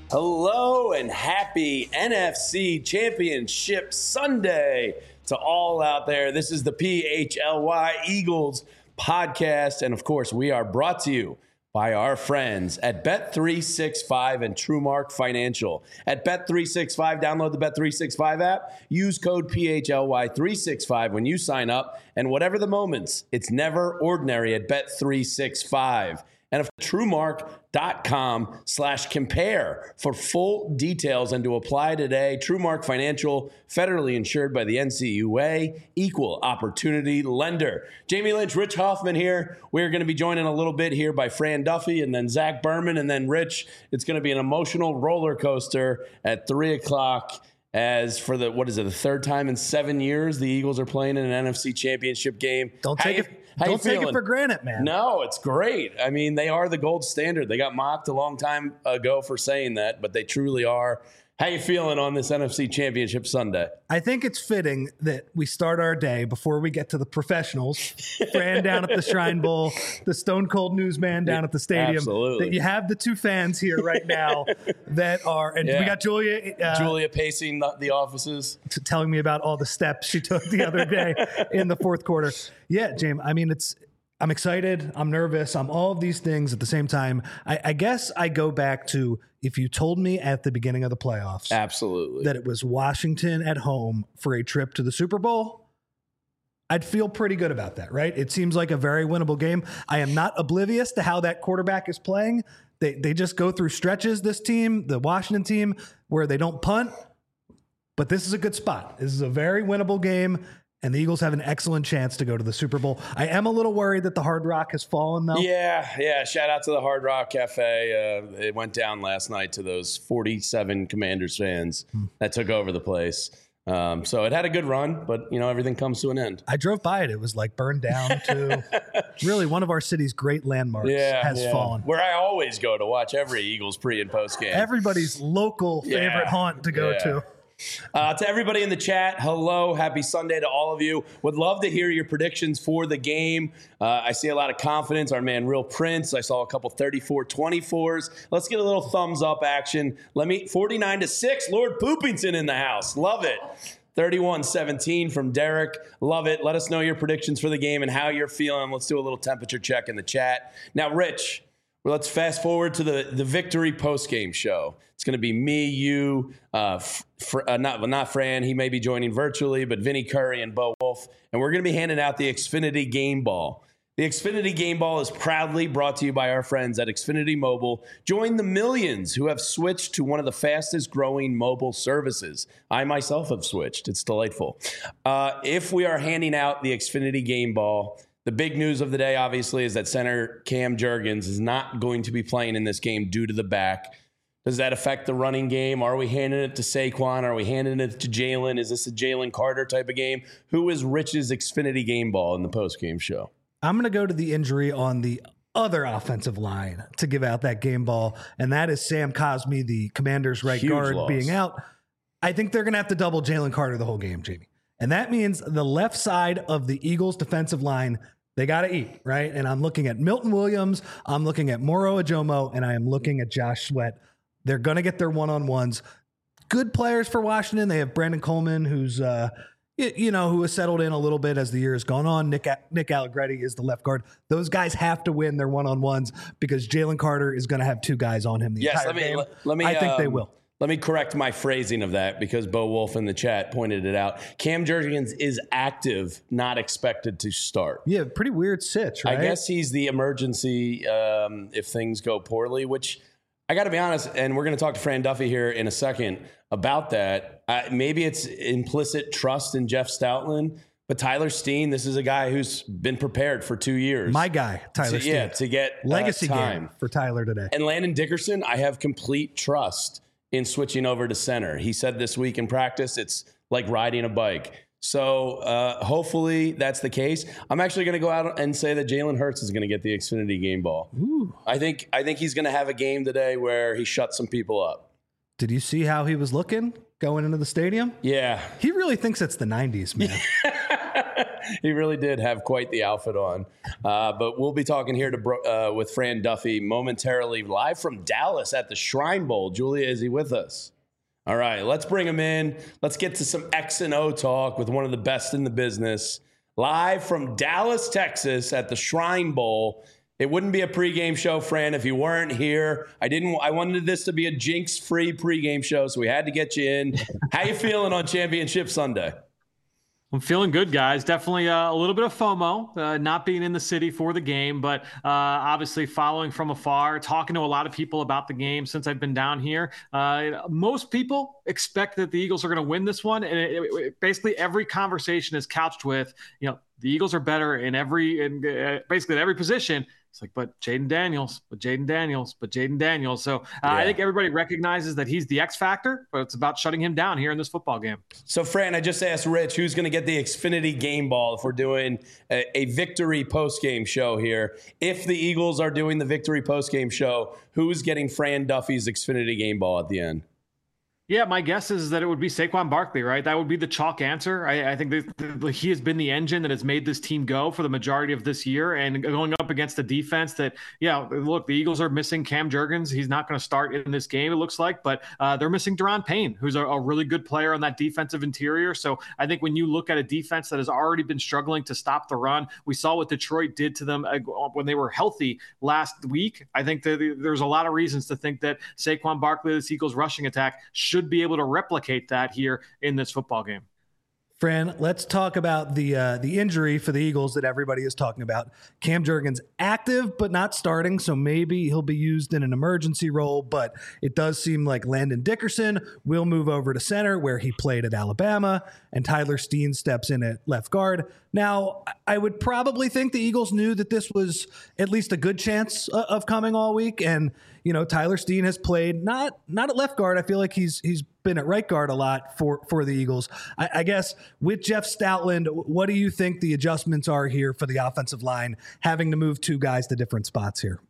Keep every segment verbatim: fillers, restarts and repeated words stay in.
Hello and happy N F C Championship Sunday to all out there. This is the P H L Y Eagles podcast. And of course, we are brought to you by our friends at Bet three sixty-five and TrueMark Financial. At Bet three sixty-five, download the Bet three sixty-five app. Use code P H L Y three sixty-five when you sign up. And whatever the moments, it's never ordinary at Bet three sixty-five. And of TrueMark.com slash compare for full details and to apply today. TrueMark Financial, federally insured by the N C U A, equal opportunity lender. Jamie Lynch, Rich Hoffman here. We're going to be joined in a little bit here by Fran Duffy and then Zach Berman and then Rich. It's going to be an emotional roller coaster at three o'clock. As for the, what is it, the third time in seven years the Eagles are playing in an N F C Championship game. Don't take it. Don't take it for granted, man. No, it's great. I mean, they are the gold standard. They got mocked a long time ago for saying that, but they truly are. How you feeling on this N F C Championship Sunday? I think it's fitting that we start our day before we get to the professionals. Fran down at the Shrine Bowl, the Stone Cold Newsman down at the stadium. Absolutely. That you have the two fans here right now that are, and yeah. we got Julia. Uh, Julia pacing the, the offices. T- telling me about all the steps she took the other day in the fourth quarter. Yeah, James, I mean, it's, I'm excited. I'm nervous. I'm all of these things at the same time. I, I guess I go back to if you told me at the beginning of the playoffs, absolutely, that it was Washington at home for a trip to the Super Bowl, I'd feel pretty good about that, right? It seems like a very winnable game. I am not oblivious to how that quarterback is playing. They they just go through stretches, this team, the Washington team, where they don't punt. But this is a good spot. This is a very winnable game. And the Eagles have an excellent chance to go to the Super Bowl. I am a little worried that the Hard Rock has fallen, though. Yeah, yeah. Shout out to the Hard Rock Cafe. Uh, it went down last night to those forty-seven Commanders fans hmm. that took over the place. Um, so it had a good run, but, you know, everything comes to an end. I drove by it. It was like burned down to really one of our city's great landmarks yeah, has yeah. fallen. Where I always go to watch every Eagles pre- and post game. Everybody's local favorite yeah, haunt to go yeah. to. Uh, to everybody in the chat, hello, happy Sunday to all of you. Would love to hear your predictions for the game. Uh, I see a lot of confidence. Our man, Real Prince. I saw a couple thirty-four twenty-fours. Let's get a little thumbs up action. Let me forty-nine to six. Lord Poopington in the house. Love it. thirty-one seventeen from Derek. Love it. Let us know your predictions for the game and how you're feeling. Let's do a little temperature check in the chat. Now, Rich, well, let's fast forward to the, the victory post-game show. It's going to be me, you, uh, fr- uh, not not Fran. He may be joining virtually, but Vinny Curry and Bo Wolf. And we're going to be handing out the Xfinity Game Ball. The Xfinity Game Ball is proudly brought to you by our friends at Xfinity Mobile. Join the millions who have switched to one of the fastest growing mobile services. I myself have switched. It's delightful. Uh, if we are handing out the Xfinity Game Ball, the big news of the day, obviously, is that center Cam Jurgens is not going to be playing in this game due to the back. Does that affect the running game? Are we handing it to Saquon? Are we handing it to Jalen? Is this a Jalen Carter type of game? Who is Rich's Xfinity Game Ball in the post-game show? I'm going to go to the injury on the other offensive line to give out that game ball, and that is Sam Cosmi, the Commanders' right Huge guard, loss. being out. I think they're going to have to double Jalen Carter the whole game, Jamie. And that means the left side of the Eagles' defensive line, they got to eat, right? And I'm looking at Milton Williams, I'm looking at Moro Ajomo, and I am looking at Josh Sweat. They're going to get their one-on-ones. Good players for Washington. They have Brandon Coleman, who's, uh, you, you know, who has settled in a little bit as the year has gone on. Nick Nick Allegretti is the left guard. Those guys have to win their one-on-ones because Jalen Carter is going to have two guys on him the yes, entire let me, game. Let, let me, I think um, they will. Let me correct my phrasing of that because Bo Wolf in the chat pointed it out. Cam Jurgens is active, not expected to start. Yeah, pretty weird sitch, right? I guess he's the emergency um, if things go poorly, which I got to be honest, and we're going to talk to Fran Duffy here in a second about that. Uh, maybe it's implicit trust in Jeff Stoutland, but Tyler Steen, this is a guy who's been prepared for two years. My guy, Tyler to, Steen. Yeah, to get legacy uh, time. game for Tyler today. And Landon Dickerson, I have complete trust in switching over to center. He said this week in practice, it's like riding a bike. So uh, hopefully that's the case. I'm actually going to go out and say that Jalen Hurts is going to get the Xfinity Game Ball. Ooh. I think I think he's going to have a game today where he shuts some people up. Did you see how he was looking going into the stadium? Yeah. He really thinks it's the nineties, man. He really did have quite the outfit on. Uh, but we'll be talking here to bro- uh, with Fran Duffy momentarily, live from Dallas at the Shrine Bowl. Julia, is he with us? All right, let's bring him in. Let's get to some X and O talk with one of the best in the business. Live from Dallas, Texas at the Shrine Bowl. It wouldn't be a pregame show, Fran, if you weren't here. I didn't. I wanted this to be a jinx-free pregame show, so we had to get you in. How you feeling on Championship Sunday? I'm feeling good, guys. Definitely uh, a little bit of FOMO, uh, not being in the city for the game, but uh, obviously following from afar, talking to a lot of people about the game since I've been down here. Uh, most people expect that the Eagles are going to win this one, and it, it, basically every conversation is couched with, you know, the Eagles are better in every, in uh, basically at every position. It's like, but Jayden Daniels, but Jayden Daniels, but Jayden Daniels. So uh, yeah. I think everybody recognizes that he's the X factor, but it's about shutting him down here in this football game. So, Fran, I just asked Rich who's going to get the Xfinity game ball if we're doing a, a victory postgame show here. If the Eagles are doing the victory postgame show, who's getting Fran Duffy's Xfinity game ball at the end? Yeah, my guess is that it would be Saquon Barkley, right? That would be the chalk answer. I, I think that he has been the engine that has made this team go for the majority of this year, and going up against a defense that, yeah, look, the Eagles are missing Cam Jurgens. He's not going to start in this game, it looks like, but uh, they're missing Daron Payne, who's a, a really good player on that defensive interior. So I think when you look at a defense that has already been struggling to stop the run, we saw what Detroit did to them when they were healthy last week. I think that there's a lot of reasons to think that Saquon Barkley, this Eagles rushing attack, should be able to replicate that here in this football game. Fran, let's talk about the uh, the injury for the Eagles that everybody is talking about. Cam Jurgens active but not starting, so maybe he'll be used in an emergency role, but it does seem like Landon Dickerson will move over to center where he played at Alabama, and Tyler Steen steps in at left guard. Now, I would probably think the Eagles knew that this was at least a good chance of coming all week, and you know, Tyler Steen has played not not at left guard. I feel like he's he's been at right guard a lot for, for the Eagles. I, I guess with Jeff Stoutland, what do you think the adjustments are here for the offensive line, having to move two guys to different spots here?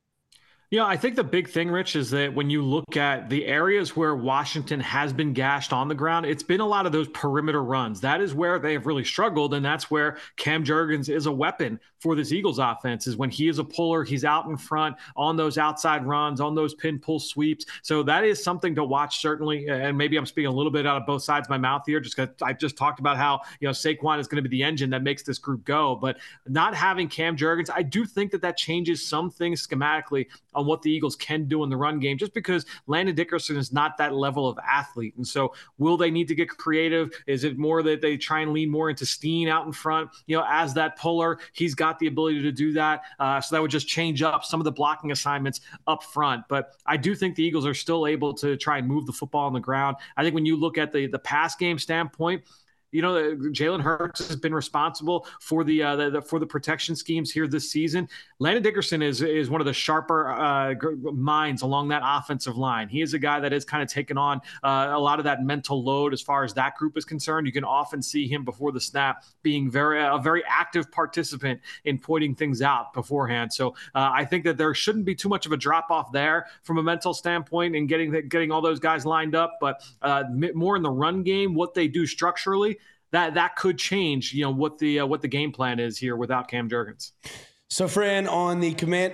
Yeah, I think the big thing, Rich, is that when you look at the areas where Washington has been gashed on the ground, it's been a lot of those perimeter runs. That is where they have really struggled, and that's where Cam Jurgens is a weapon for this Eagles offense, is when he is a puller, he's out in front on those outside runs, on those pin pull sweeps. So that is something to watch, certainly, and maybe I'm speaking a little bit out of both sides of my mouth here, just because I just talked about how, you know, Saquon is going to be the engine that makes this group go, but not having Cam Jurgens, I do think that that changes some things schematically on what the Eagles can do in the run game, just because Landon Dickerson is not that level of athlete. And so will they need to get creative? Is it more that they try and lean more into Steen out in front, you know, as that puller? He's got the ability to do that. Uh, so that would just change up some of the blocking assignments up front. But I do think the Eagles are still able to try and move the football on the ground. I think when you look at the, the pass game standpoint, you know, Jalen Hurts has been responsible for the, uh, the, the for the protection schemes here this season. Landon Dickerson is is one of the sharper uh, minds along that offensive line. He is a guy that has kind of taken on uh, a lot of that mental load as far as that group is concerned. You can often see him before the snap being very a very active participant in pointing things out beforehand. So uh, I think that there shouldn't be too much of a drop off there from a mental standpoint and getting the, getting all those guys lined up. But uh, more in the run game, what they do structurally, that that could change, you know, what the uh, what the game plan is here without Cam Jurgens. So, Fran, on the command.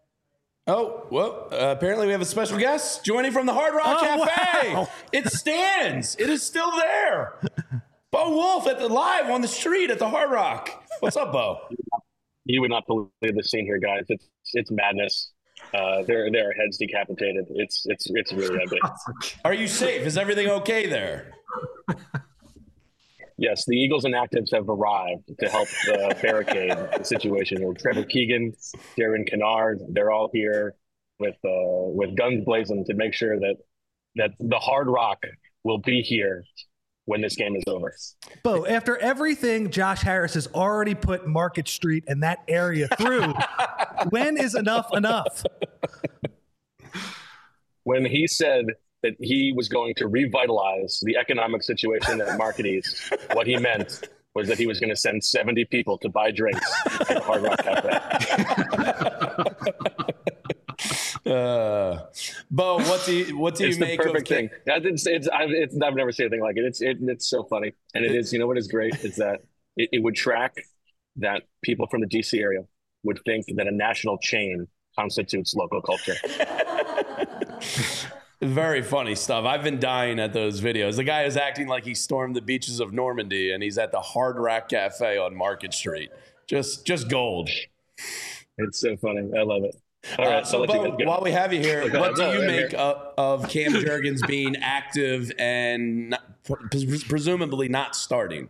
Oh, well, uh, apparently we have a special guest joining from the Hard Rock oh, Cafe. Wow. It stands. It is still there. Bo Wolf at the live on the street at the Hard Rock. What's up, Bo? You would not believe the scene here, guys. It's it's madness. Uh, there there are heads decapitated. It's it's it's really ugly. Are you safe? Is everything okay there? Yes, the Eagles inactives have arrived to help uh, barricade the situation. With Trevor Keegan, Darren Kennard, they're all here with uh, with guns blazing to make sure that that the Hard Rock will be here when this game is over. Bo, after everything Josh Harris has already put Market Street and that area through, when is enough enough? When he said that he was going to revitalize the economic situation at Market East, what he meant was that he was going to send seventy people to buy drinks at the Hard Rock Cafe. uh, Bo, what do you, what do it's you make the perfect of thing? It's, it's, I've, it's, I've never seen anything like it. It's it, it's so funny, and it is. You know what is great is that it, it would track that people from the D C area would think that a national chain constitutes local culture. Very funny stuff. I've been dying at those videos. The guy is acting like he stormed the beaches of Normandy and he's at the Hard Rock Cafe on Market Street. Just just gold. It's so funny. I love it. All right, uh, so, Bo, while we have you here, okay, what do you make here. of, of Cam Jurgens being active and not, pres- presumably not starting?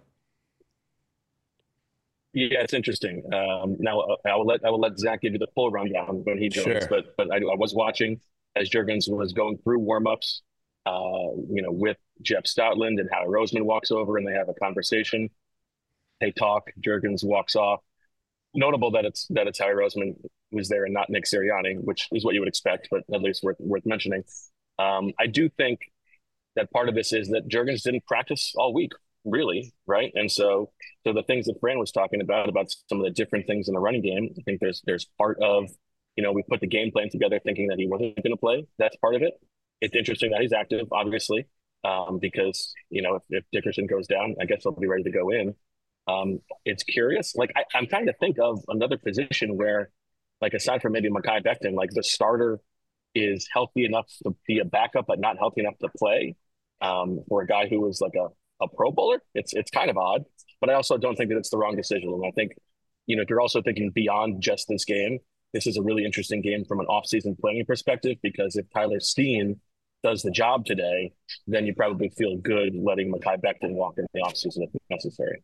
Yeah, it's interesting. Um, now I will let I will let Zach give you the full rundown when he joins. Sure. But but I, I was watching as Jurgens was going through warmups, uh, you know, with Jeff Stoutland, and Howie Roseman walks over and they have a conversation. They talk. Jurgens walks off. Notable that it's that it's Howie Roseman who's there and not Nick Sirianni, which is what you would expect, but at least worth worth mentioning. Um, I do think that part of this is that Jurgens didn't practice all week, really, right? And so, so the things that Fran was talking about about some of the different things in the running game, I think there's there's part of, you know, we put the game plan together thinking that he wasn't going to play. That's part of it. It's interesting that he's active, obviously, um, because you know if, if Dickerson goes down, I guess he'll be ready to go in. Um, it's curious. Like I, I'm trying to think of another position where, like aside from maybe Mekhi Becton, like the starter is healthy enough to be a backup, but not healthy enough to play. Um, for a guy who was like a, a Pro Bowler, it's it's kind of odd. But I also don't think that it's the wrong decision. And I think, you know, if you're also thinking beyond just this game, this is a really interesting game from an offseason planning perspective, because if Tyler Steen does the job today, then you probably feel good letting Mekhi Becton walk in the offseason if necessary.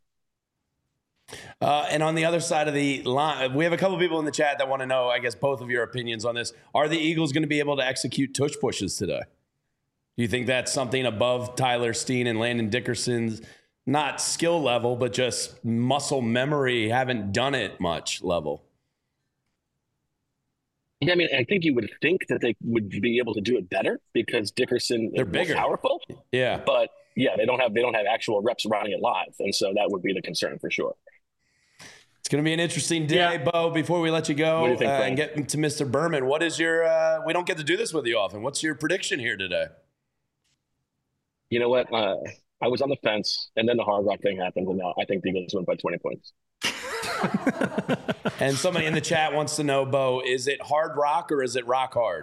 Uh, and on the other side of the line, we have a couple of people in the chat that want to know, I guess, both of your opinions on this. Are the Eagles going to be able to execute tush pushes today? Do you think that's something above Tyler Steen and Landon Dickerson's, not skill level, but just muscle memory, haven't done it much level? Yeah, I mean, I think you would think that they would be able to do it better because Dickerson They're is bigger. more powerful. Yeah. But yeah, they don't have they don't have actual reps running it live. And so that would be the concern for sure. It's going to be an interesting day, Yeah. Bo. Before we let you go What do you think, uh, Frank? and get to Mister Berman, what is your uh, – we don't get to do this with you often. What's your prediction here today? You know what? Uh, I was on the fence, and then the Hard Rock thing happened, and now I think the Eagles win by twenty points. And somebody in the chat wants to know, Bo, is it hard rock or is it rock hard?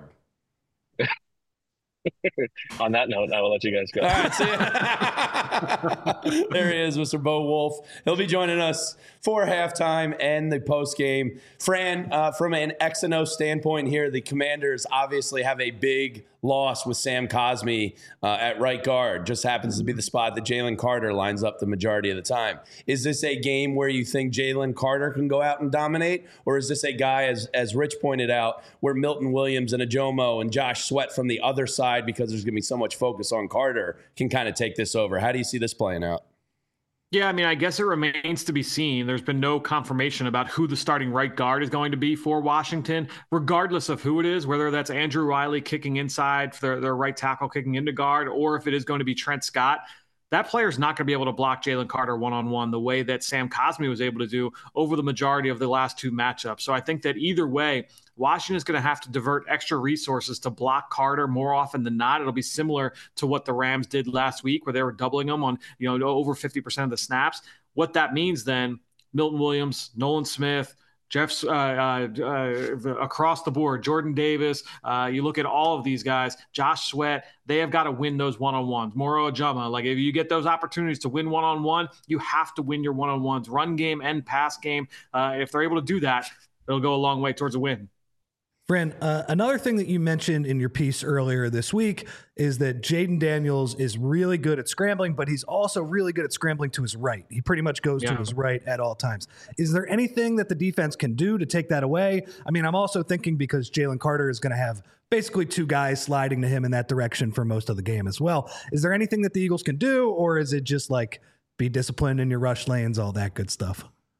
On that note, I will let you guys go. All right, see ya. There he is, Mister Bo Wolf. He'll be joining us for halftime and the post game. Fran, uh, from an X and O standpoint here, the Commanders obviously have a big loss with Sam Cosmi uh, at right guard. Just happens to be the spot that Jalen Carter lines up the majority of the time. Is this a game where you think Jalen Carter can go out and dominate? Or is this a guy, as, as Rich pointed out, where Milton Williams and Ajomo and Josh Sweat from the other side, because there's going to be so much focus on Carter, can kind of take this over? How do you see this playing out? Yeah, I mean, I guess it remains to be seen. There's been no confirmation about who the starting right guard is going to be for Washington, regardless of who it is, whether that's Andrew Riley kicking inside for their, their right tackle kicking into guard, or if it is going to be Trent Scott. That player's not going to be able to block Jalen Carter one-on-one the way that Sam Cosmi was able to do over the majority of the last two matchups. So I think that either way, Washington is going to have to divert extra resources to block Carter more often than not. It'll be similar to what the Rams did last week, where they were doubling him on, you know, over fifty percent of the snaps. What that means then, Milton Williams, Nolan Smith, Jeff's uh, uh, uh, across the board, Jordan Davis. Uh, you look at all of these guys, Josh Sweat, they have got to win those one-on-ones. Moro Ajama, like if you get those opportunities to win one-on-one, you have to win your one-on-ones, run game and pass game. Uh, if they're able to do that, it'll go a long way towards a win. Fran, uh, another thing that you mentioned in your piece earlier this week is that Jaden Daniels is really good at scrambling, but he's also really good at scrambling to his right. He pretty much goes Yeah. to his right at all times. Is there anything that the defense can do to take that away? I mean, I'm also thinking because Jalen Carter is going to have basically two guys sliding to him in that direction for most of the game as well. Is there anything that the Eagles can do, or is it just like be disciplined in your rush lanes, all that good stuff?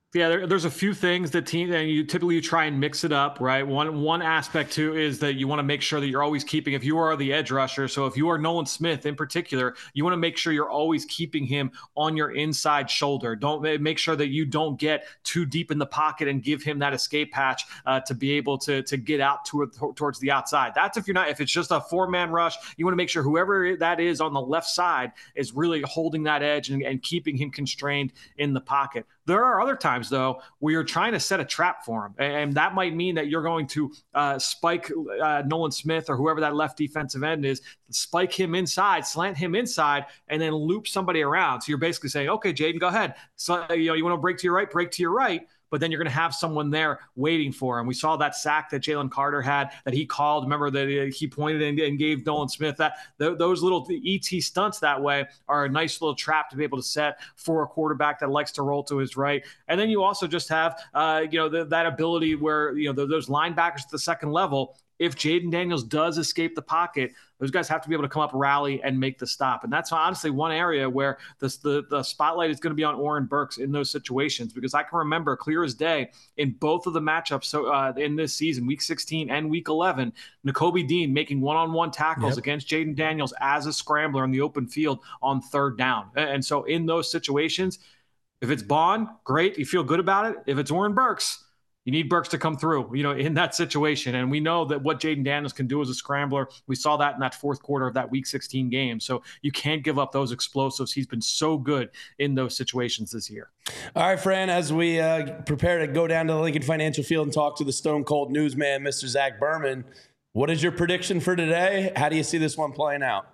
Yeah, there, there's a few things that team and you typically you try and mix it up, right? One one aspect too is that you want to make sure that you're always keeping, if you are the edge rusher, so if you are Nolan Smith in particular, you want to make sure you're always keeping him on your inside shoulder. Don't make sure that you don't get too deep in the pocket and give him that escape hatch uh, to be able to to get out to, towards the outside. That's if you're not, if it's just a four man rush, you want to make sure whoever that is on the left side is really holding that edge and, and keeping him constrained in the pocket. There are other times, though, where you're trying to set a trap for him. And that might mean that you're going to uh, spike uh, Nolan Smith or whoever that left defensive end is, spike him inside, slant him inside, and then loop somebody around. So you're basically saying, okay, Jaden, go ahead. So, you know, you want to break to your right, break to your right. But then you're going to have someone there waiting for him. We saw that sack that Jalen Carter had that he called. Remember that he pointed and, and gave Nolan Smith that. Th- those little E T stunts that way are a nice little trap to be able to set for a quarterback that likes to roll to his right. And then you also just have, uh, you know, the, that ability where, you know, the, those linebackers at the second level, if Jaden Daniels does escape the pocket, those guys have to be able to come up, rally, and make the stop. And that's honestly one area where this, the, the spotlight is going to be on Oren Burks in those situations, because I can remember clear as day in both of the matchups so uh, in this season, week sixteen and week eleven, Nakobe Dean making one-on-one tackles yep. against Jaden Daniels as a scrambler in the open field on third down. And so in those situations, if it's Bond, great, you feel good about it. If it's Oren Burks, you need Burks to come through, you know, in that situation. And we know that what Jaden Daniels can do as a scrambler. We saw that in that fourth quarter of that week sixteen game. So you can't give up those explosives. He's been so good in those situations this year. All right, Fran, as we uh, prepare to go down to the Lincoln Financial Field and talk to the Stone Cold newsman, Mister Zach Berman, what is your prediction for today? How do you see this one playing out?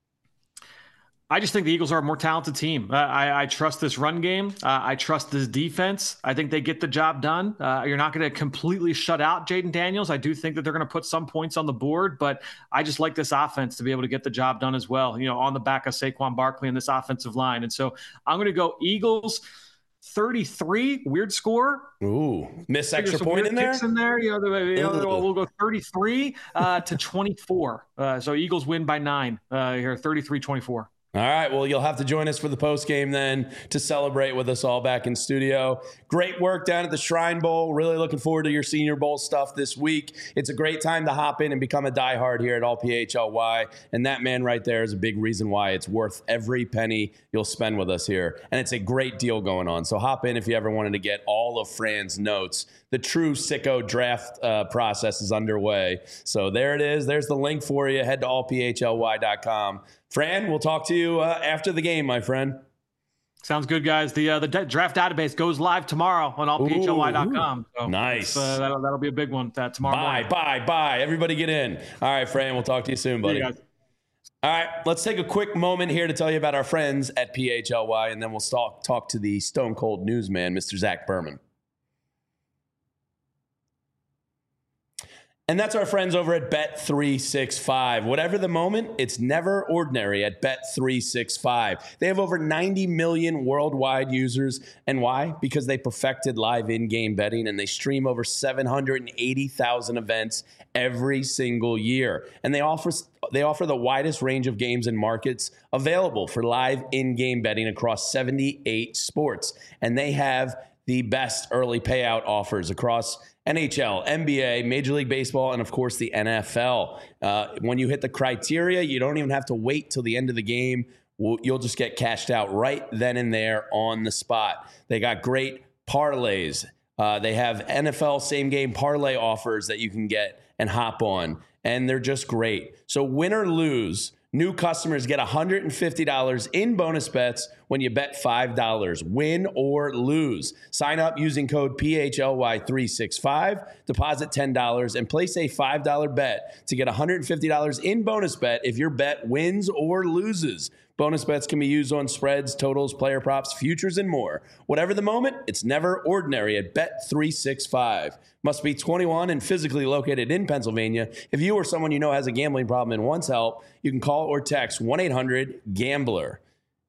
I just think the Eagles are a more talented team. Uh, I, I trust this run game. Uh, I trust this defense. I think they get the job done. Uh, you're not going to completely shut out Jaden Daniels. I do think that they're going to put some points on the board, but I just like this offense to be able to get the job done as well, you know, on the back of Saquon Barkley and this offensive line. And so I'm going to go Eagles thirty-three, weird score. Ooh, miss extra point in there? in there. You know, the, you know we'll go thirty-three uh, to twenty-four. Uh, so Eagles win by nine uh, here, thirty-three twenty-four. All right, well, you'll have to join us for the post game then to celebrate with us all back in studio. Great work down at the Shrine Bowl. Really looking forward to your Senior Bowl stuff this week. It's a great time to hop in and become a diehard here at All P H L Y. And that man right there is a big reason why it's worth every penny you'll spend with us here. And it's a great deal going on. So hop in if you ever wanted to get all of Fran's notes. The true sicko draft uh, process is underway. So there it is. There's the link for you. Head to all p h l y dot com. Fran, we'll talk to you uh, after the game, my friend. Sounds good, guys. The uh, the d- draft database goes live tomorrow on all p h l y dot com. So nice. Uh, that'll, that'll be a big one uh, tomorrow Bye, morning. bye, bye. Everybody get in. All right, Fran, we'll talk to you soon, buddy. All right, let's take a quick moment here to tell you about our friends at P H L Y, and then we'll talk, talk to the Stone Cold newsman, Mister Zach Berman. And that's our friends over at Bet three sixty-five. Whatever the moment, it's never ordinary at Bet three sixty-five. They have over ninety million worldwide users. And why? Because they perfected live in-game betting and they stream over seven hundred eighty thousand events every single year. And they offer they offer the widest range of games and markets available for live in-game betting across seventy-eight sports. And they have the best early payout offers across N H L, N B A, Major League Baseball, and of course the N F L. Uh, when you hit the criteria, you don't even have to wait till the end of the game. You'll just get cashed out right then and there on the spot. They got great parlays. Uh, they have N F L same game parlay offers that you can get and hop on, and they're just great. So win or lose, new customers get one hundred fifty dollars in bonus bets when you bet five dollars, win or lose. Sign up using code P H L Y three sixty-five, deposit ten dollars, and place a five dollar bet to get one hundred fifty dollars in bonus bet if your bet wins or loses. Bonus bets can be used on spreads, totals, player props, futures, and more. Whatever the moment, it's never ordinary at Bet three sixty-five. Must be twenty-one and physically located in Pennsylvania. If you or someone you know has a gambling problem and wants help, you can call or text one eight hundred gambler.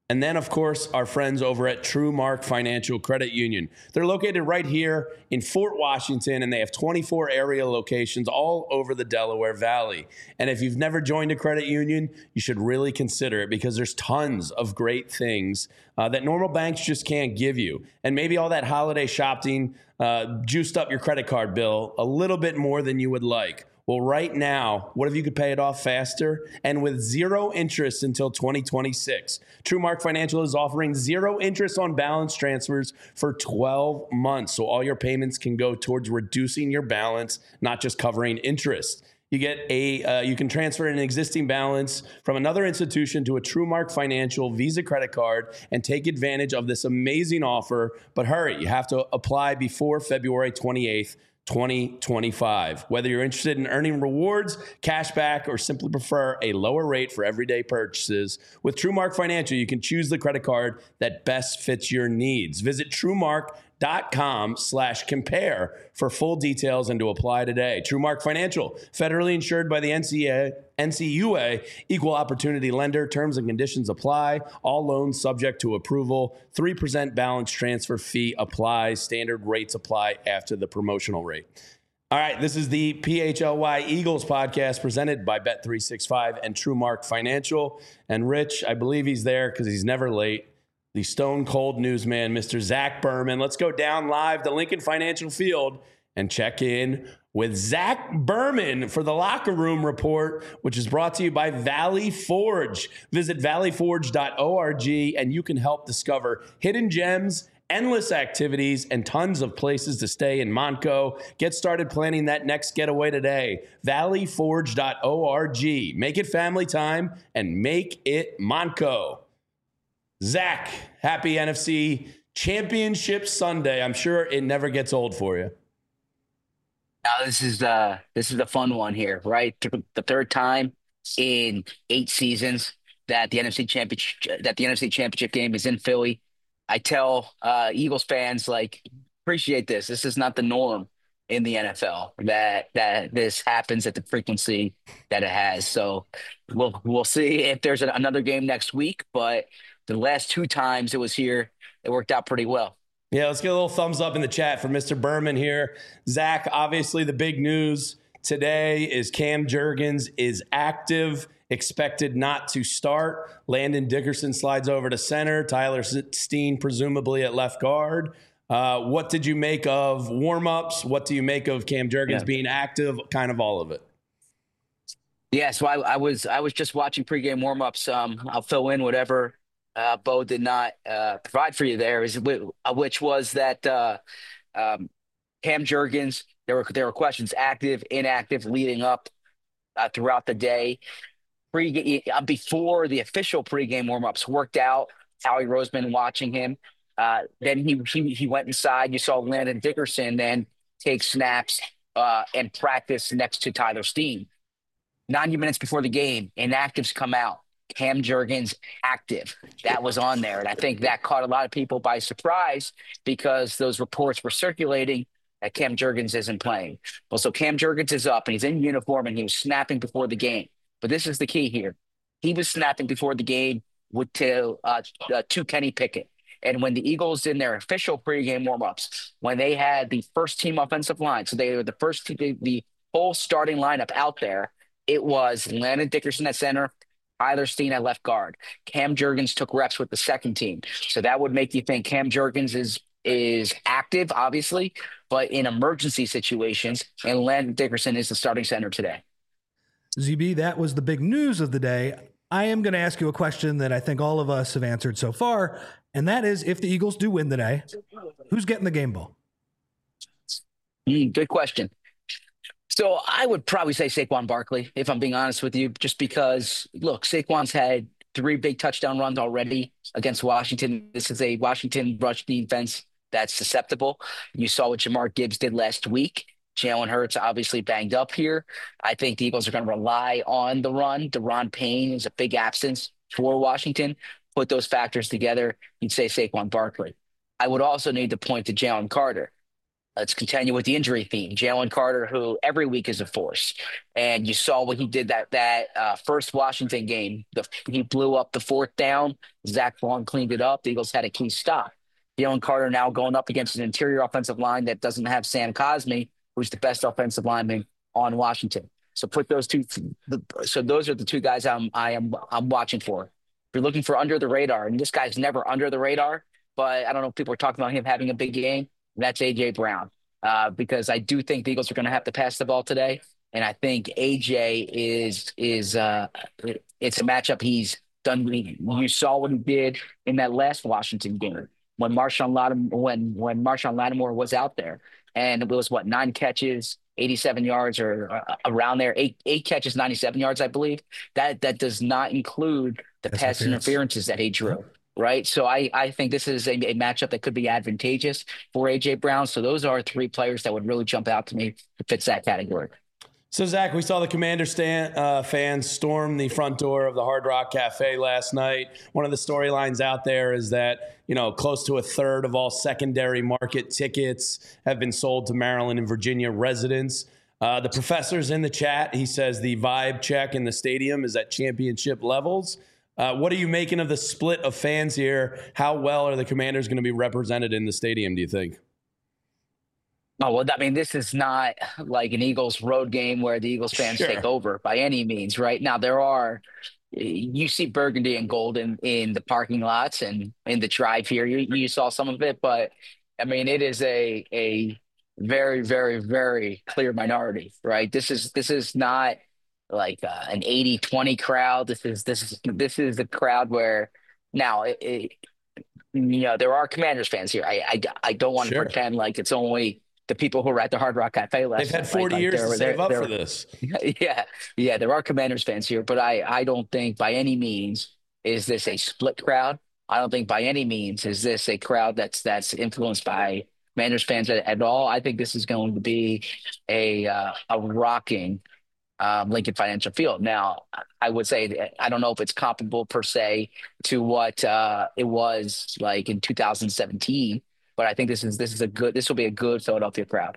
And then, of course, our friends over at TrueMark Financial Credit Union. They're located right here in Fort Washington, and they have twenty-four area locations all over the Delaware Valley. And if you've never joined a credit union, you should really consider it, because there's tons of great things uh, that normal banks just can't give you. And maybe all that holiday shopping uh, juiced up your credit card bill a little bit more than you would like. Well, right now, what if you could pay it off faster and with zero interest until twenty twenty-six? TrueMark Financial is offering zero interest on balance transfers for twelve months. So all your payments can go towards reducing your balance, not just covering interest. You get a uh, you can transfer an existing balance from another institution to a TrueMark Financial Visa credit card and take advantage of this amazing offer. But hurry, you have to apply before February twenty-eighth. twenty twenty-five. Whether you're interested in earning rewards, cash back, or simply prefer a lower rate for everyday purchases, with TrueMark Financial, you can choose the credit card that best fits your needs. Visit TrueMark.com slash compare for full details and to apply today. TrueMark Financial, federally insured by the N C A A, N C U A, equal opportunity lender. Terms and conditions apply. All loans subject to approval. three percent balance transfer fee applies. Standard rates apply after the promotional rate. All right, this is the P H L Y Eagles podcast presented by Bet three sixty-five and TrueMark Financial. And Rich, I believe he's there because he's never late. The stone cold newsman, Mister Zach Berman. Let's go down live to Lincoln Financial Field and check in with Zach Berman for the Locker Room Report, which is brought to you by Valley Forge. Visit valley forge dot org and you can help discover hidden gems, endless activities, and tons of places to stay in Montco. Get started planning that next getaway today. valley forge dot org. Make it family time and make it Montco. Zach, happy N F C Championship Sunday. I'm sure it never gets old for you. Now this is the this is the fun one here, right? The third time in eight seasons that the N F C championship that the N F C Championship game is in Philly. I tell uh, Eagles fans, like, appreciate this. This is not the norm in the N F L that that this happens at the frequency that it has. So we'll we'll see if there's an, another game next week. But the last two times it was here, it worked out pretty well. Yeah, let's get a little thumbs up in the chat for Mister Berman here. Zach, obviously the big news today is Cam Jurgens is active, expected not to start. Landon Dickerson slides over to center. Tyler Steen presumably at left guard. Uh, what did you make of warmups? What do you make of Cam Jurgens yeah. being active? Kind of all of it. Yeah, so I, I was I was just watching pregame warmups. Um, I'll fill in whatever Uh, Bo did not uh, provide for you there, is which was that uh, um, Cam Jurgens. There were there were questions: active, inactive, leading up uh, throughout the day. Pre uh, before the official pregame warmups worked out, Howie Roseman watching him. Uh, then he, he he went inside. You saw Landon Dickerson then take snaps uh, and practice next to Tyler Steen. ninety minutes before the game, inactives come out. Cam Jurgens active. That was on there. And I think that caught a lot of people by surprise because those reports were circulating that Cam Jurgens isn't playing. Well, so Cam Jurgens is up and he's in uniform and he was snapping before the game. But this is the key here. He was snapping before the game with to, uh, uh, to Kenny Pickett. And when the Eagles in their official pregame warmups, when they had the first team offensive line, so they were the first team, the, the whole starting lineup out there, it was Landon Dickerson at center, Tyler Steen at left guard. Cam Jurgens took reps with the second team. So that would make you think Cam Jurgens is is active, obviously, but in emergency situations, and Landon Dickerson is the starting center today. Z B, that was the big news of the day. I am going to ask you a question that I think all of us have answered so far, and that is, if the Eagles do win today, who's getting the game ball? Mm, good question. So I would probably say Saquon Barkley, if I'm being honest with you, just because, look, Saquon's had three big touchdown runs already against Washington. This is a Washington rush defense that's susceptible. You saw what Jahmyr Gibbs did last week. Jalen Hurts obviously banged up here. I think the Eagles are going to rely on the run. Deron Payne is a big absence for Washington. Put those factors together, you'd say Saquon Barkley. I would also need to point to Jalen Carter. let's continue with the injury theme. Jalen Carter, who every week is a force, and you saw what he did that that uh, first Washington game. The, he blew up the fourth down. Zach Vaughn cleaned it up. The Eagles had a key stop. Jalen Carter now going up against an interior offensive line that doesn't have Sam Cosmi, who's the best offensive lineman on Washington. So put those two. So those are the two guys I'm I am I'm watching for. If you're looking for under the radar, and this guy's never under the radar, but I don't know if people are talking about him having a big game. That's A J Brown, uh, because I do think the Eagles are going to have to pass the ball today, and I think A J is is uh, it's a matchup he's done. You saw what he did in that last Washington game when Marshawn Lattimore when when Marshawn Lattimore was out there, and it was what nine catches, eighty-seven yards, or uh, around there, eight eight catches, ninety-seven yards, I believe. That that does not include the That's pass interferences that he drew. Right. So I, I think this is a, a matchup that could be advantageous for A J Brown. So those are three players that would really jump out to me that fits that category. So, Zach, we saw the Commander stand, uh, fans storm the front door of the Hard Rock Cafe last night. One of the storylines out there is that, you know, close to a third of all secondary market tickets have been sold to Maryland and Virginia residents. Uh, the professor's in the chat. He says the vibe check in the stadium is at championship levels. Uh, what are you making of the split of fans here? How well are the Commanders going to be represented in the stadium, do you think? Oh, well, I mean, this is not like an Eagles road game where the Eagles fans Sure. take over by any means, right? Now, there are – you see burgundy and gold in, in the parking lots and in the drive here. You, you saw some of it, but, I mean, it is a a very, very, very clear minority, right? This is this is not – like uh, an eighty twenty crowd. This is this is this is the crowd where now it, it, you know there are Commanders fans here. I I, I don't want to Sure. pretend like it's only the people who were at the Hard Rock Cafe last They've had night, forty like, years they're- to save they're- up they're- for this. Yeah, yeah, there are Commanders fans here, but I I don't think by any means is this a split crowd. I don't think by any means is this a crowd that's that's influenced by Commanders fans at, at all. I think this is going to be a uh, a rocking um, Lincoln Financial Field. Now, I would say that I don't know if it's comparable per se to what uh, it was like in two thousand seventeen, but I think this is this is a good this will be a good Philadelphia crowd.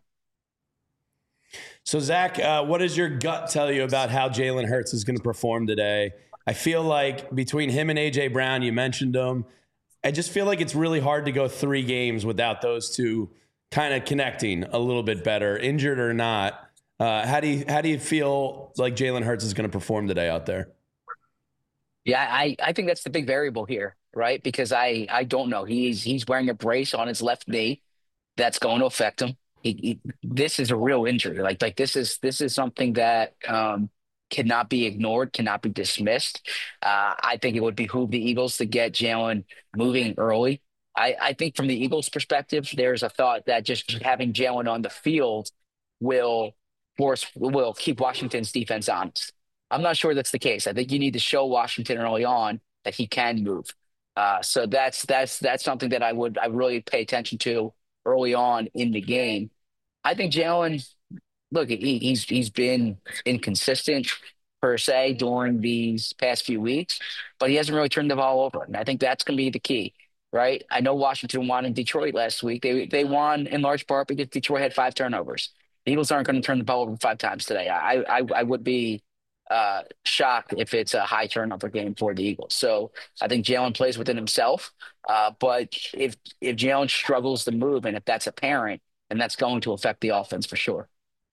So, Zach, uh, what does your gut tell you about how Jalen Hurts is going to perform today? I feel like between him and A J Brown, you mentioned them, I just feel like it's really hard to go three games without those two kind of connecting a little bit better, injured or not. Uh, how do you how do you feel like Jalen Hurts is going to perform today out there? Yeah, I, I think that's the big variable here, right? Because I, I don't know. He's he's wearing a brace on his left knee that's going to affect him. He, he, this is a real injury. Like like this is this is something that um, cannot be ignored, cannot be dismissed. Uh, I think it would behoove the Eagles to get Jalen moving early. I, I think from the Eagles' perspective, there's a thought that just having Jalen on the field will force will keep Washington's defense honest. I'm not sure that's the case. I think you need to show Washington early on that he can move. Uh, so that's that's that's something that I would I really pay attention to early on in the game. I think Jalen, look, he, he's he's been inconsistent per se during these past few weeks, but he hasn't really turned the ball over, and I think that's going to be the key. Right? I know Washington won in Detroit last week. They they won in large part because Detroit had five turnovers. The Eagles aren't going to turn the ball over five times today. I I, I would be uh, shocked if it's a high turnover game for the Eagles. So I think Jalen plays within himself. Uh, but if if Jalen struggles to move, and if that's apparent, then that's going to affect the offense for sure.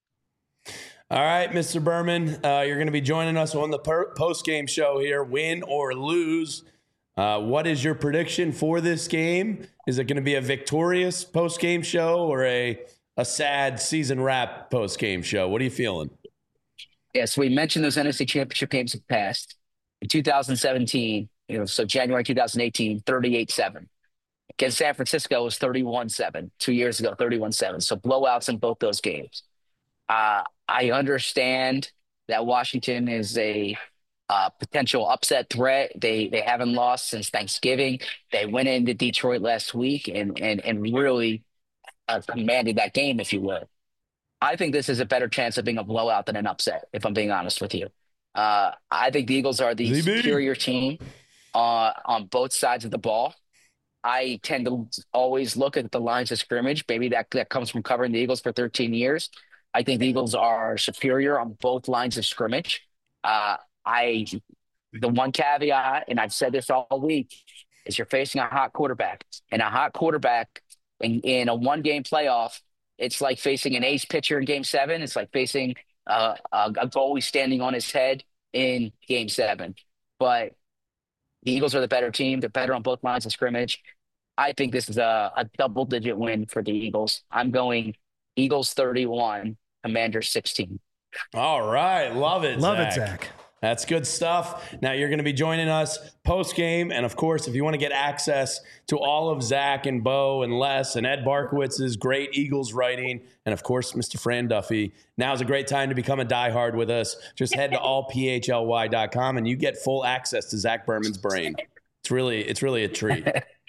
All right, Mister Berman, uh, you're going to be joining us on the per- post-game show here, win or lose. Uh, what is your prediction for this game? Is it going to be a victorious post-game show or a a sad season wrap post-game show? What are you feeling? Yeah, so we mentioned those N F C Championship games have passed. In two thousand seventeen, you know, so January two thousand eighteen, thirty-eight seven. Against San Francisco, it was thirty-one seven. Two years ago, thirty-one seven. So blowouts in both those games. Uh, I understand that Washington is a uh, potential upset threat. They they haven't lost since Thanksgiving. They went into Detroit last week and and and really uh, commanded that game, if you will. I think this is a better chance of being a blowout than an upset, if I'm being honest with you. Uh, I think the Eagles are the Z B. superior team uh, on both sides of the ball. I tend to always look at the lines of scrimmage. Maybe that, that comes from covering the Eagles for thirteen years. I think the Eagles are superior on both lines of scrimmage. Uh, I, the one caveat, and I've said this all week, is you're facing a hot quarterback. And a hot quarterback in, in a one-game playoff, it's like facing an ace pitcher in game seven. It's like facing uh, a, a goalie standing on his head in game seven. But the Eagles are the better team. They're better on both lines of scrimmage. I think this is a, a double-digit win for the Eagles. I'm going Eagles thirty-one, Commanders sixteen. All right. Love it, Love Zach. it, Zach. That's good stuff. Now you're going to be joining us post-game. And, of course, if you want to get access to all of Zach and Bo and Les and Ed Barkowitz's great Eagles writing, and, of course, Mister Fran Duffy, now's a great time to become a diehard with us. Just head to all p h l y dot com and you get full access to Zach Berman's brain. It's really, it's really a treat.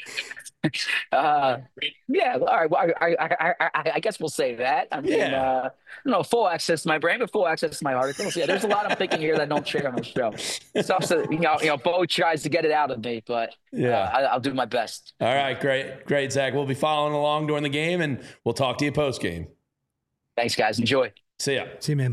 Uh, yeah, all right. Well, I, I, I, I guess we'll say that. I mean, Yeah. uh, no full access to my brain, but full access to my articles. Yeah, there's a lot I'm thinking here that I don't share on the show. It's also, you know, you know, Bo tries to get it out of me, but Yeah. uh, I, I'll do my best. All right, great. Great, Zach. We'll be following along during the game, and we'll talk to you post-game. Thanks, guys. Enjoy. See ya. See you, man.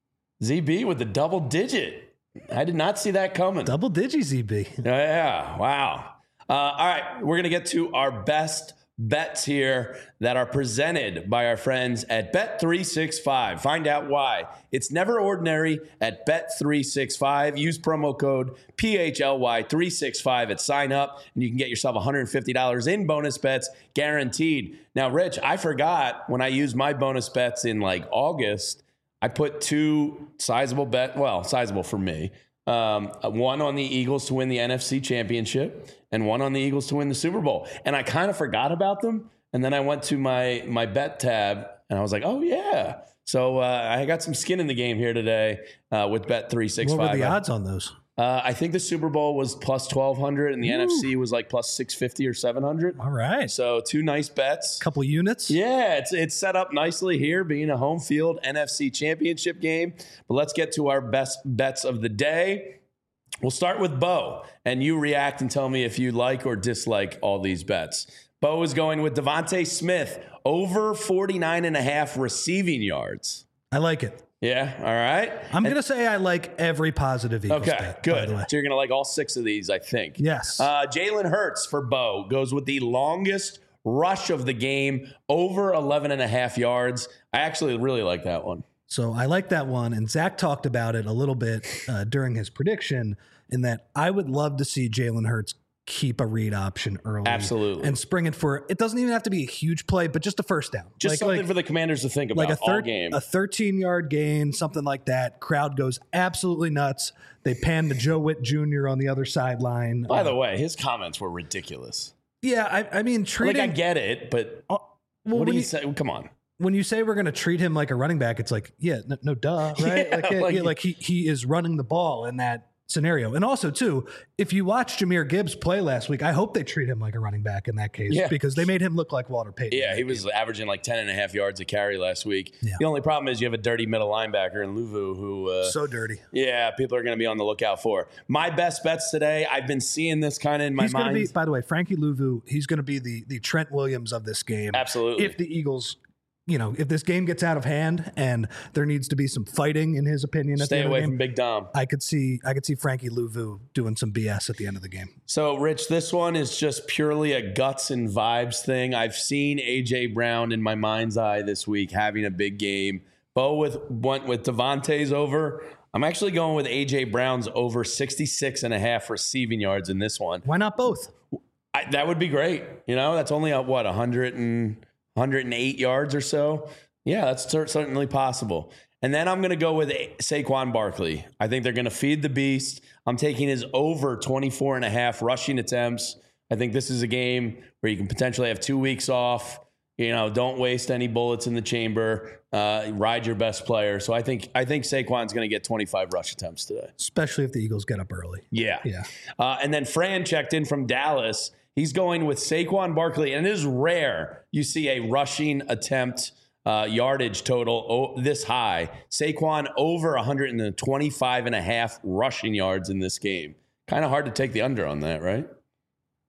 Z B with the double digit. I did not see that coming. Double digi Z B. Yeah, wow. Uh, all right, we're going to get to our best bets here that are presented by our friends at Bet three sixty-five. Find out why. It's never ordinary at Bet three sixty-five. Use promo code P H L Y three sixty-five at sign up, and you can get yourself one hundred fifty dollars in bonus bets guaranteed. Now, Rich, I forgot when I used my bonus bets in like August, I put two sizable bet, well, sizable for me. Um, one on the Eagles to win the N F C Championship and one on the Eagles to win the Super Bowl. And I kind of forgot about them. And then I went to my my bet tab and I was like, oh, yeah. So uh, I got some skin in the game here today uh, with Bet three sixty-five. What were the odds on those? Uh, I think the Super Bowl was plus twelve hundred and the Ooh. N F C was like plus six fifty or seven hundred. All right. So two nice bets. Couple units. Yeah, it's it's set up nicely here, being a home field N F C championship game. But let's get to our best bets of the day. We'll start with Bo, and you react and tell me if you like or dislike all these bets. Bo is going with Devontae Smith over forty-nine and a half receiving yards. I like it. Yeah, all right. I'm going to say I like every positive Eagles Okay, bet, good. by the way. So you're going to like all six of these, I think. Yes. Uh, Jalen Hurts for Bo goes with the longest rush of the game, over eleven and a half yards. I actually really like that one. So I like that one. And Zach talked about it a little bit uh, during his prediction, in that I would love to see Jalen Hurts keep a read option early. Absolutely. And spring it for, it doesn't even have to be a huge play, but just a first down. Just like, something like, for the Commanders to think about like a thir- all game. A thirteen-yard gain, something like that. Crowd goes absolutely nuts. They pan to Joe Witt Junior on the other sideline. By uh, the way, his comments were ridiculous. Yeah, I, I mean, treating... Like, I get it, but uh, well, what do when you, you say? Come on. When you say we're going to treat him like a running back, it's like, yeah, no, no duh, right? Yeah, like, yeah, like- yeah, like he he is running the ball in that scenario. And also, too, if you watch Jahmyr Gibbs play last week, I hope they treat him like a running back in that case, Yeah. because they made him look like Walter Payton. Yeah, he was averaging like ten and a half yards a carry last week. Yeah. The only problem is you have a dirty middle linebacker in Luvu who, uh, So dirty. yeah, people are going to be on the lookout for. My best bets today, I've been seeing this kind of in my He's going to mind. be, by the way, Frankie Louvu, he's going to be the the Trent Williams of this game. Absolutely. If the Eagles, you know, if this game gets out of hand and there needs to be some fighting, in his opinion, at Stay the end away of the from game, Big Dom. I could see I could see Frankie Louvu doing some B S at the end of the game. So, Rich, this one is just purely a guts and vibes thing. I've seen A J Brown in my mind's eye this week having a big game. Bo with went with Devontae's over. I'm actually going with A J Brown's over sixty-six and a half receiving yards in this one. Why not both? I, that would be great. You know, that's only a, what, one hundred and one hundred eight yards or so. Yeah, that's cer- certainly possible. And then I'm going to go with Saquon Barkley. I think they're going to feed the beast. I'm taking his over twenty-four and a half rushing attempts. I think this is a game where you can potentially have two weeks off. You know, don't waste any bullets in the chamber. Uh, ride your best player. So I think I think Saquon's going to get twenty-five rush attempts today. Especially if the Eagles get up early. Yeah. Yeah. Uh, and then Fran checked in from Dallas. He's going with Saquon Barkley. And it is rare you see a rushing attempt uh, yardage total oh, this high. Saquon over one hundred twenty-five and a half rushing yards in this game. Kind of hard to take the under on that, right?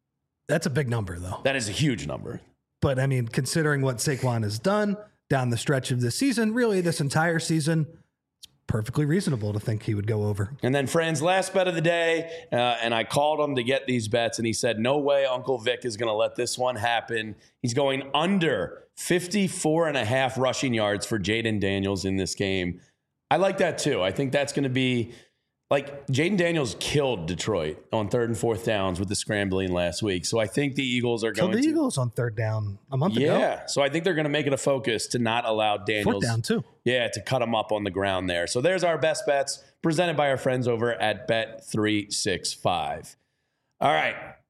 That's a big number, though. That is a huge number. But, I mean, considering what Saquon has done down the stretch of this season, really this entire season, it's perfectly reasonable to think he would go over. And then Fran's last bet of the day, uh, and I called him to get these bets, and he said, no way Uncle Vic is going to let this one happen. He's going under fifty-four and a half rushing yards for Jayden Daniels in this game. I like that too. I think that's going to be like Jayden Daniels killed Detroit on third and fourth downs with the scrambling last week. So I think the Eagles are Killed going the to. Eagles on third down a month yeah. ago. Yeah. So I think they're going to make it a focus to not allow Daniels. Fourth down too. Yeah, to cut them up on the ground there. So there's our best bets presented by our friends over at Bet three sixty-five. All right.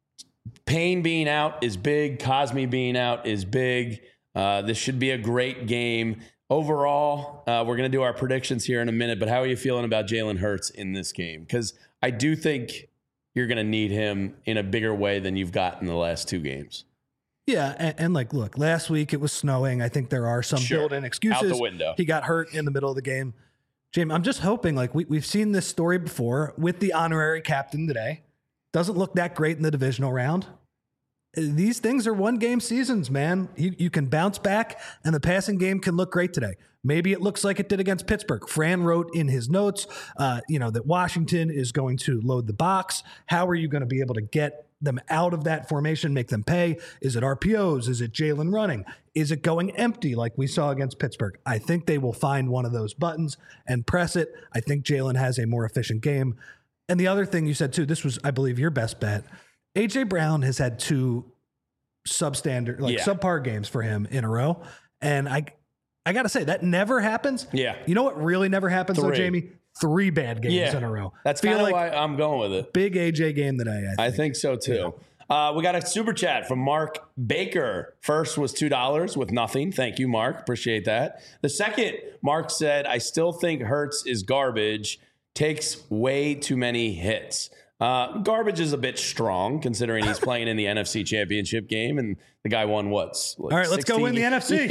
Payne being out is big. Cosme being out is big. Uh, this should be a great game. Overall, uh, we're going to do our predictions here in a minute, but how are you feeling about Jalen Hurts in this game? Because I do think you're going to need him in a bigger way than you've got in the last two games. Yeah, and, and like, look, last week it was snowing. I think there are some Sure. built-in excuses. Out the window. He got hurt in the middle of the game. Jamie, I'm just hoping, like, we, we've seen this story before with the honorary captain today. Doesn't look that great in the divisional round. These things are one-game seasons, man. You, you can bounce back, and the passing game can look great today. Maybe it looks like it did against Pittsburgh. Fran wrote in his notes, uh, you know, that Washington is going to load the box. How are you going to be able to get them out of that formation, make them pay? Is it R P Os? Is it Jalen running? Is it going empty like we saw against Pittsburgh? I think they will find one of those buttons and press it. I think Jalen has a more efficient game. And the other thing you said, too, this was, I believe, your best bet. A J Brown has had two substandard, like Yeah. subpar games for him in a row. And I I got to say, that never happens. Yeah. You know what really never happens, though, Three. Jamie? Three bad games Yeah. in a row. That's Feel kind of like why I'm going with it. big A J game today, I think. I think so too. Uh, we got a super chat from Mark Baker. First was two dollars with nothing. Thank you, Mark. Appreciate that. The second, Mark said, I still think Hurts is garbage. Takes way too many hits. Uh, garbage is a bit strong considering he's playing in the N F C Championship game, and the guy won what's like All right, let's go win the N F C.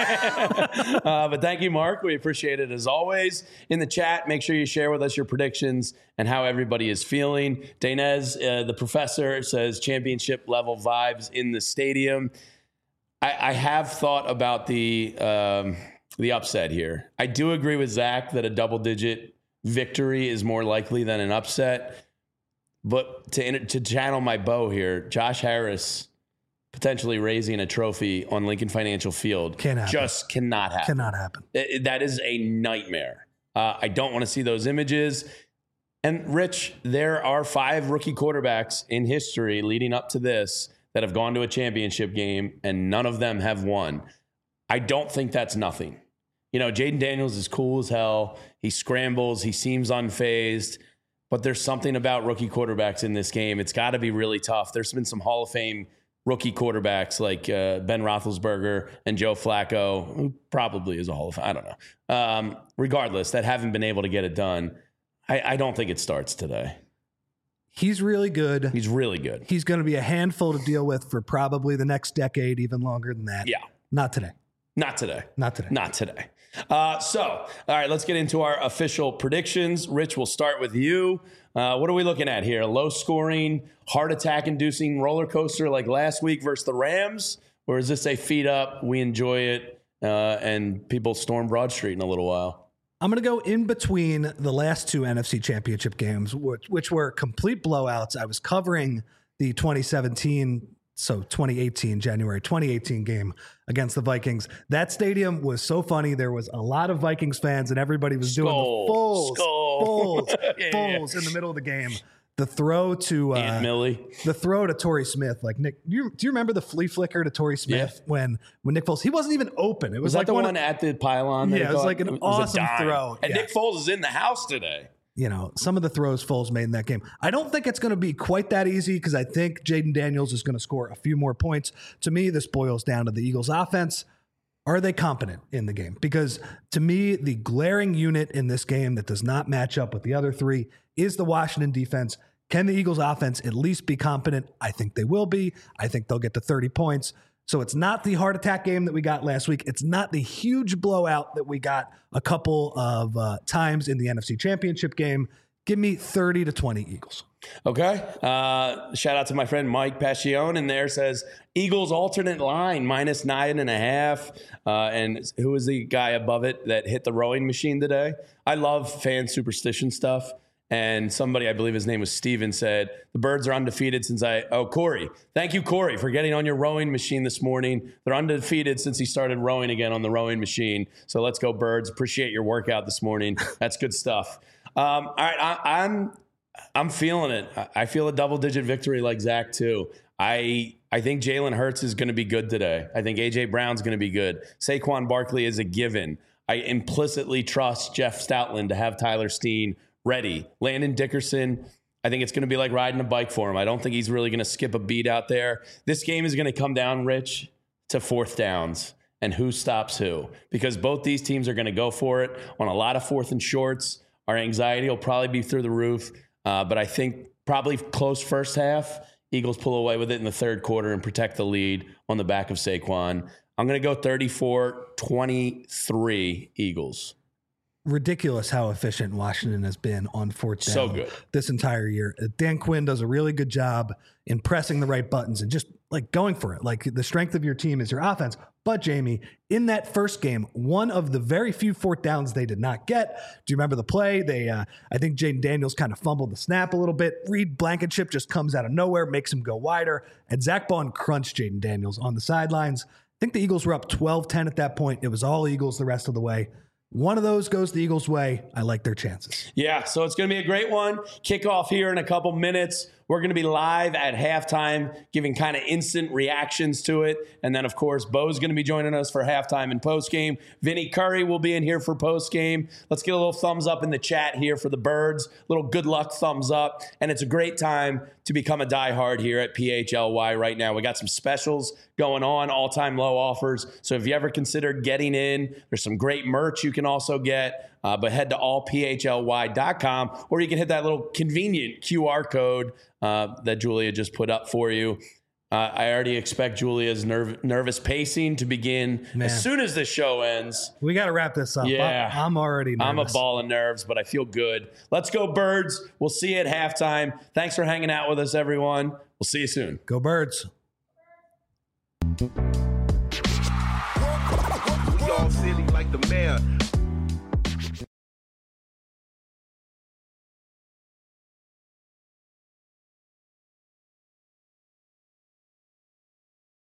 uh, but thank you, Mark. We appreciate it as always. In the chat, make sure you share with us your predictions and how everybody is feeling. Dainez, uh, the professor, says championship level vibes in the stadium. I, I have thought about the um, the upset here. I do agree with Zach that a double digit victory is more likely than an upset. But to to channel my bow here, Josh Harris potentially raising a trophy on Lincoln Financial Field Can't happen. just cannot happen. Cannot happen. It- that is a nightmare. Uh, I don't want to see those images. And Rich, there are five rookie quarterbacks in history leading up to this that have gone to a championship game, and none of them have won. I don't think that's nothing. You know, Jayden Daniels is cool as hell. He scrambles. He seems unfazed. But there's something about rookie quarterbacks in this game. It's got to be really tough. There's been some Hall of Fame rookie quarterbacks like uh, Ben Roethlisberger and Joe Flacco, who probably is a Hall of Fame. I don't know. Um, regardless, that haven't been able to get it done. I, I don't think it starts today. He's really good. He's really good. He's going to be a handful to deal with for probably the next decade, even longer than that. Yeah. Not today. Not today. Not today. Not today. Uh, so, all right, let's get into our official predictions. Rich, we'll start with you. Uh, what are we looking at here? A low scoring, heart attack inducing roller coaster like last week versus the Rams? Or is this a feet up, we enjoy it, uh, and people storm Broad Street in a little while? I'm going to go in between the last two N F C Championship games, which, which were complete blowouts. I was covering the twenty seventeen, so twenty eighteen, January twenty eighteen game against the Vikings. That stadium was so funny. There was a lot of Vikings fans, and everybody was doing Skull. the fulls, Skull. fulls, Yeah, fulls yeah. in the middle of the game. The throw to uh, Aunt Millie. the throw to Torrey Smith, like Nick. Do you, do you remember the flea flicker to Torrey Smith Yeah. when when Nick Foles? He wasn't even open. It was, Was that like the one one of, at the pylon? that Yeah, he it was caught? like an a awesome dime. throw. And Yeah. Nick Foles is in the house today. you know, some of the throws Foles made in that game. I don't think it's going to be quite that easy because I think Jayden Daniels is going to score a few more points. To me, this boils down to the Eagles' offense. Are they competent in the game? Because to me, the glaring unit in this game that does not match up with the other three is the Washington defense. Can the Eagles' offense at least be competent? I think they will be. I think they'll get to thirty points. So it's not the heart attack game that we got last week. It's not the huge blowout that we got a couple of uh, times in the N F C Championship game. Give me thirty to twenty Eagles. Okay. Uh, shout out to my friend Mike Pascione in there, says Eagles alternate line minus nine and a half. Uh, and who was the guy above it that hit the rowing machine today? I love fan superstition stuff. And somebody, I believe his name was Steven, said the Birds are undefeated since I, oh, Corey. Thank you, Corey, for getting on your rowing machine this morning. They're undefeated since he started rowing again on the rowing machine. So let's go, Birds. Appreciate your workout this morning. That's good stuff. Um, all right, I, I'm I'm feeling it. I feel a double-digit victory like Zach, too. I I think Jalen Hurts is going to be good today. I think A J. Brown's going to be good. Saquon Barkley is a given. I implicitly trust Jeff Stoutland to have Tyler Steen ready. Landon Dickerson, I think it's going to be like riding a bike for him. I don't think he's really going to skip a beat out there. This game is going to come down, Rich, to fourth downs and who stops who, because both these teams are going to go for it on a lot of fourth and shorts. Our anxiety will probably be through the roof, uh, but I think probably close first half. Eagles pull away with it in the third quarter and protect the lead on the back of Saquon. I'm going to go thirty-four twenty-three Eagles. Ridiculous how efficient Washington has been on fourth down so good. this entire year. Dan Quinn does a really good job in pressing the right buttons and just like going for it. Like the strength of your team is your offense. But Jamie, in that first game, one of the very few fourth downs they did not get. Do you remember the play? They, uh, I think Jaden Daniels kind of fumbled the snap a little bit. Reed Blankenship just comes out of nowhere, makes him go wider, and Zach Bond crunched Jaden Daniels on the sidelines. I think the Eagles were up twelve ten at that point. It was all Eagles the rest of the way. One of those goes the Eagles' way. I like their chances. Yeah, so it's going to be a great one. Kickoff here in a couple minutes. We're going to be live at halftime, giving kind of instant reactions to it. And then, of course, Bo's going to be joining us for halftime and postgame. Vinny Curry will be in here for postgame. Let's get a little thumbs up in the chat here for the Birds. Little good luck thumbs up. And it's a great time to become a diehard here at P H L Y right now. We got some specials going on, all-time low offers. So if you ever considered getting in, there's some great merch you can also get. Uh, but head to all P H L Y dot com, or you can hit that little convenient Q R code uh, that Julia just put up for you. Uh, I already expect Julia's nerv- nervous pacing to begin Man. as soon as the show ends. We got to wrap this up. Yeah. I'm, I'm already nervous. I'm a ball of nerves, but I feel good. Let's go, Birds. We'll see you at halftime. Thanks for hanging out with us, everyone. We'll see you soon. Go Birds. We all silly like the mayor.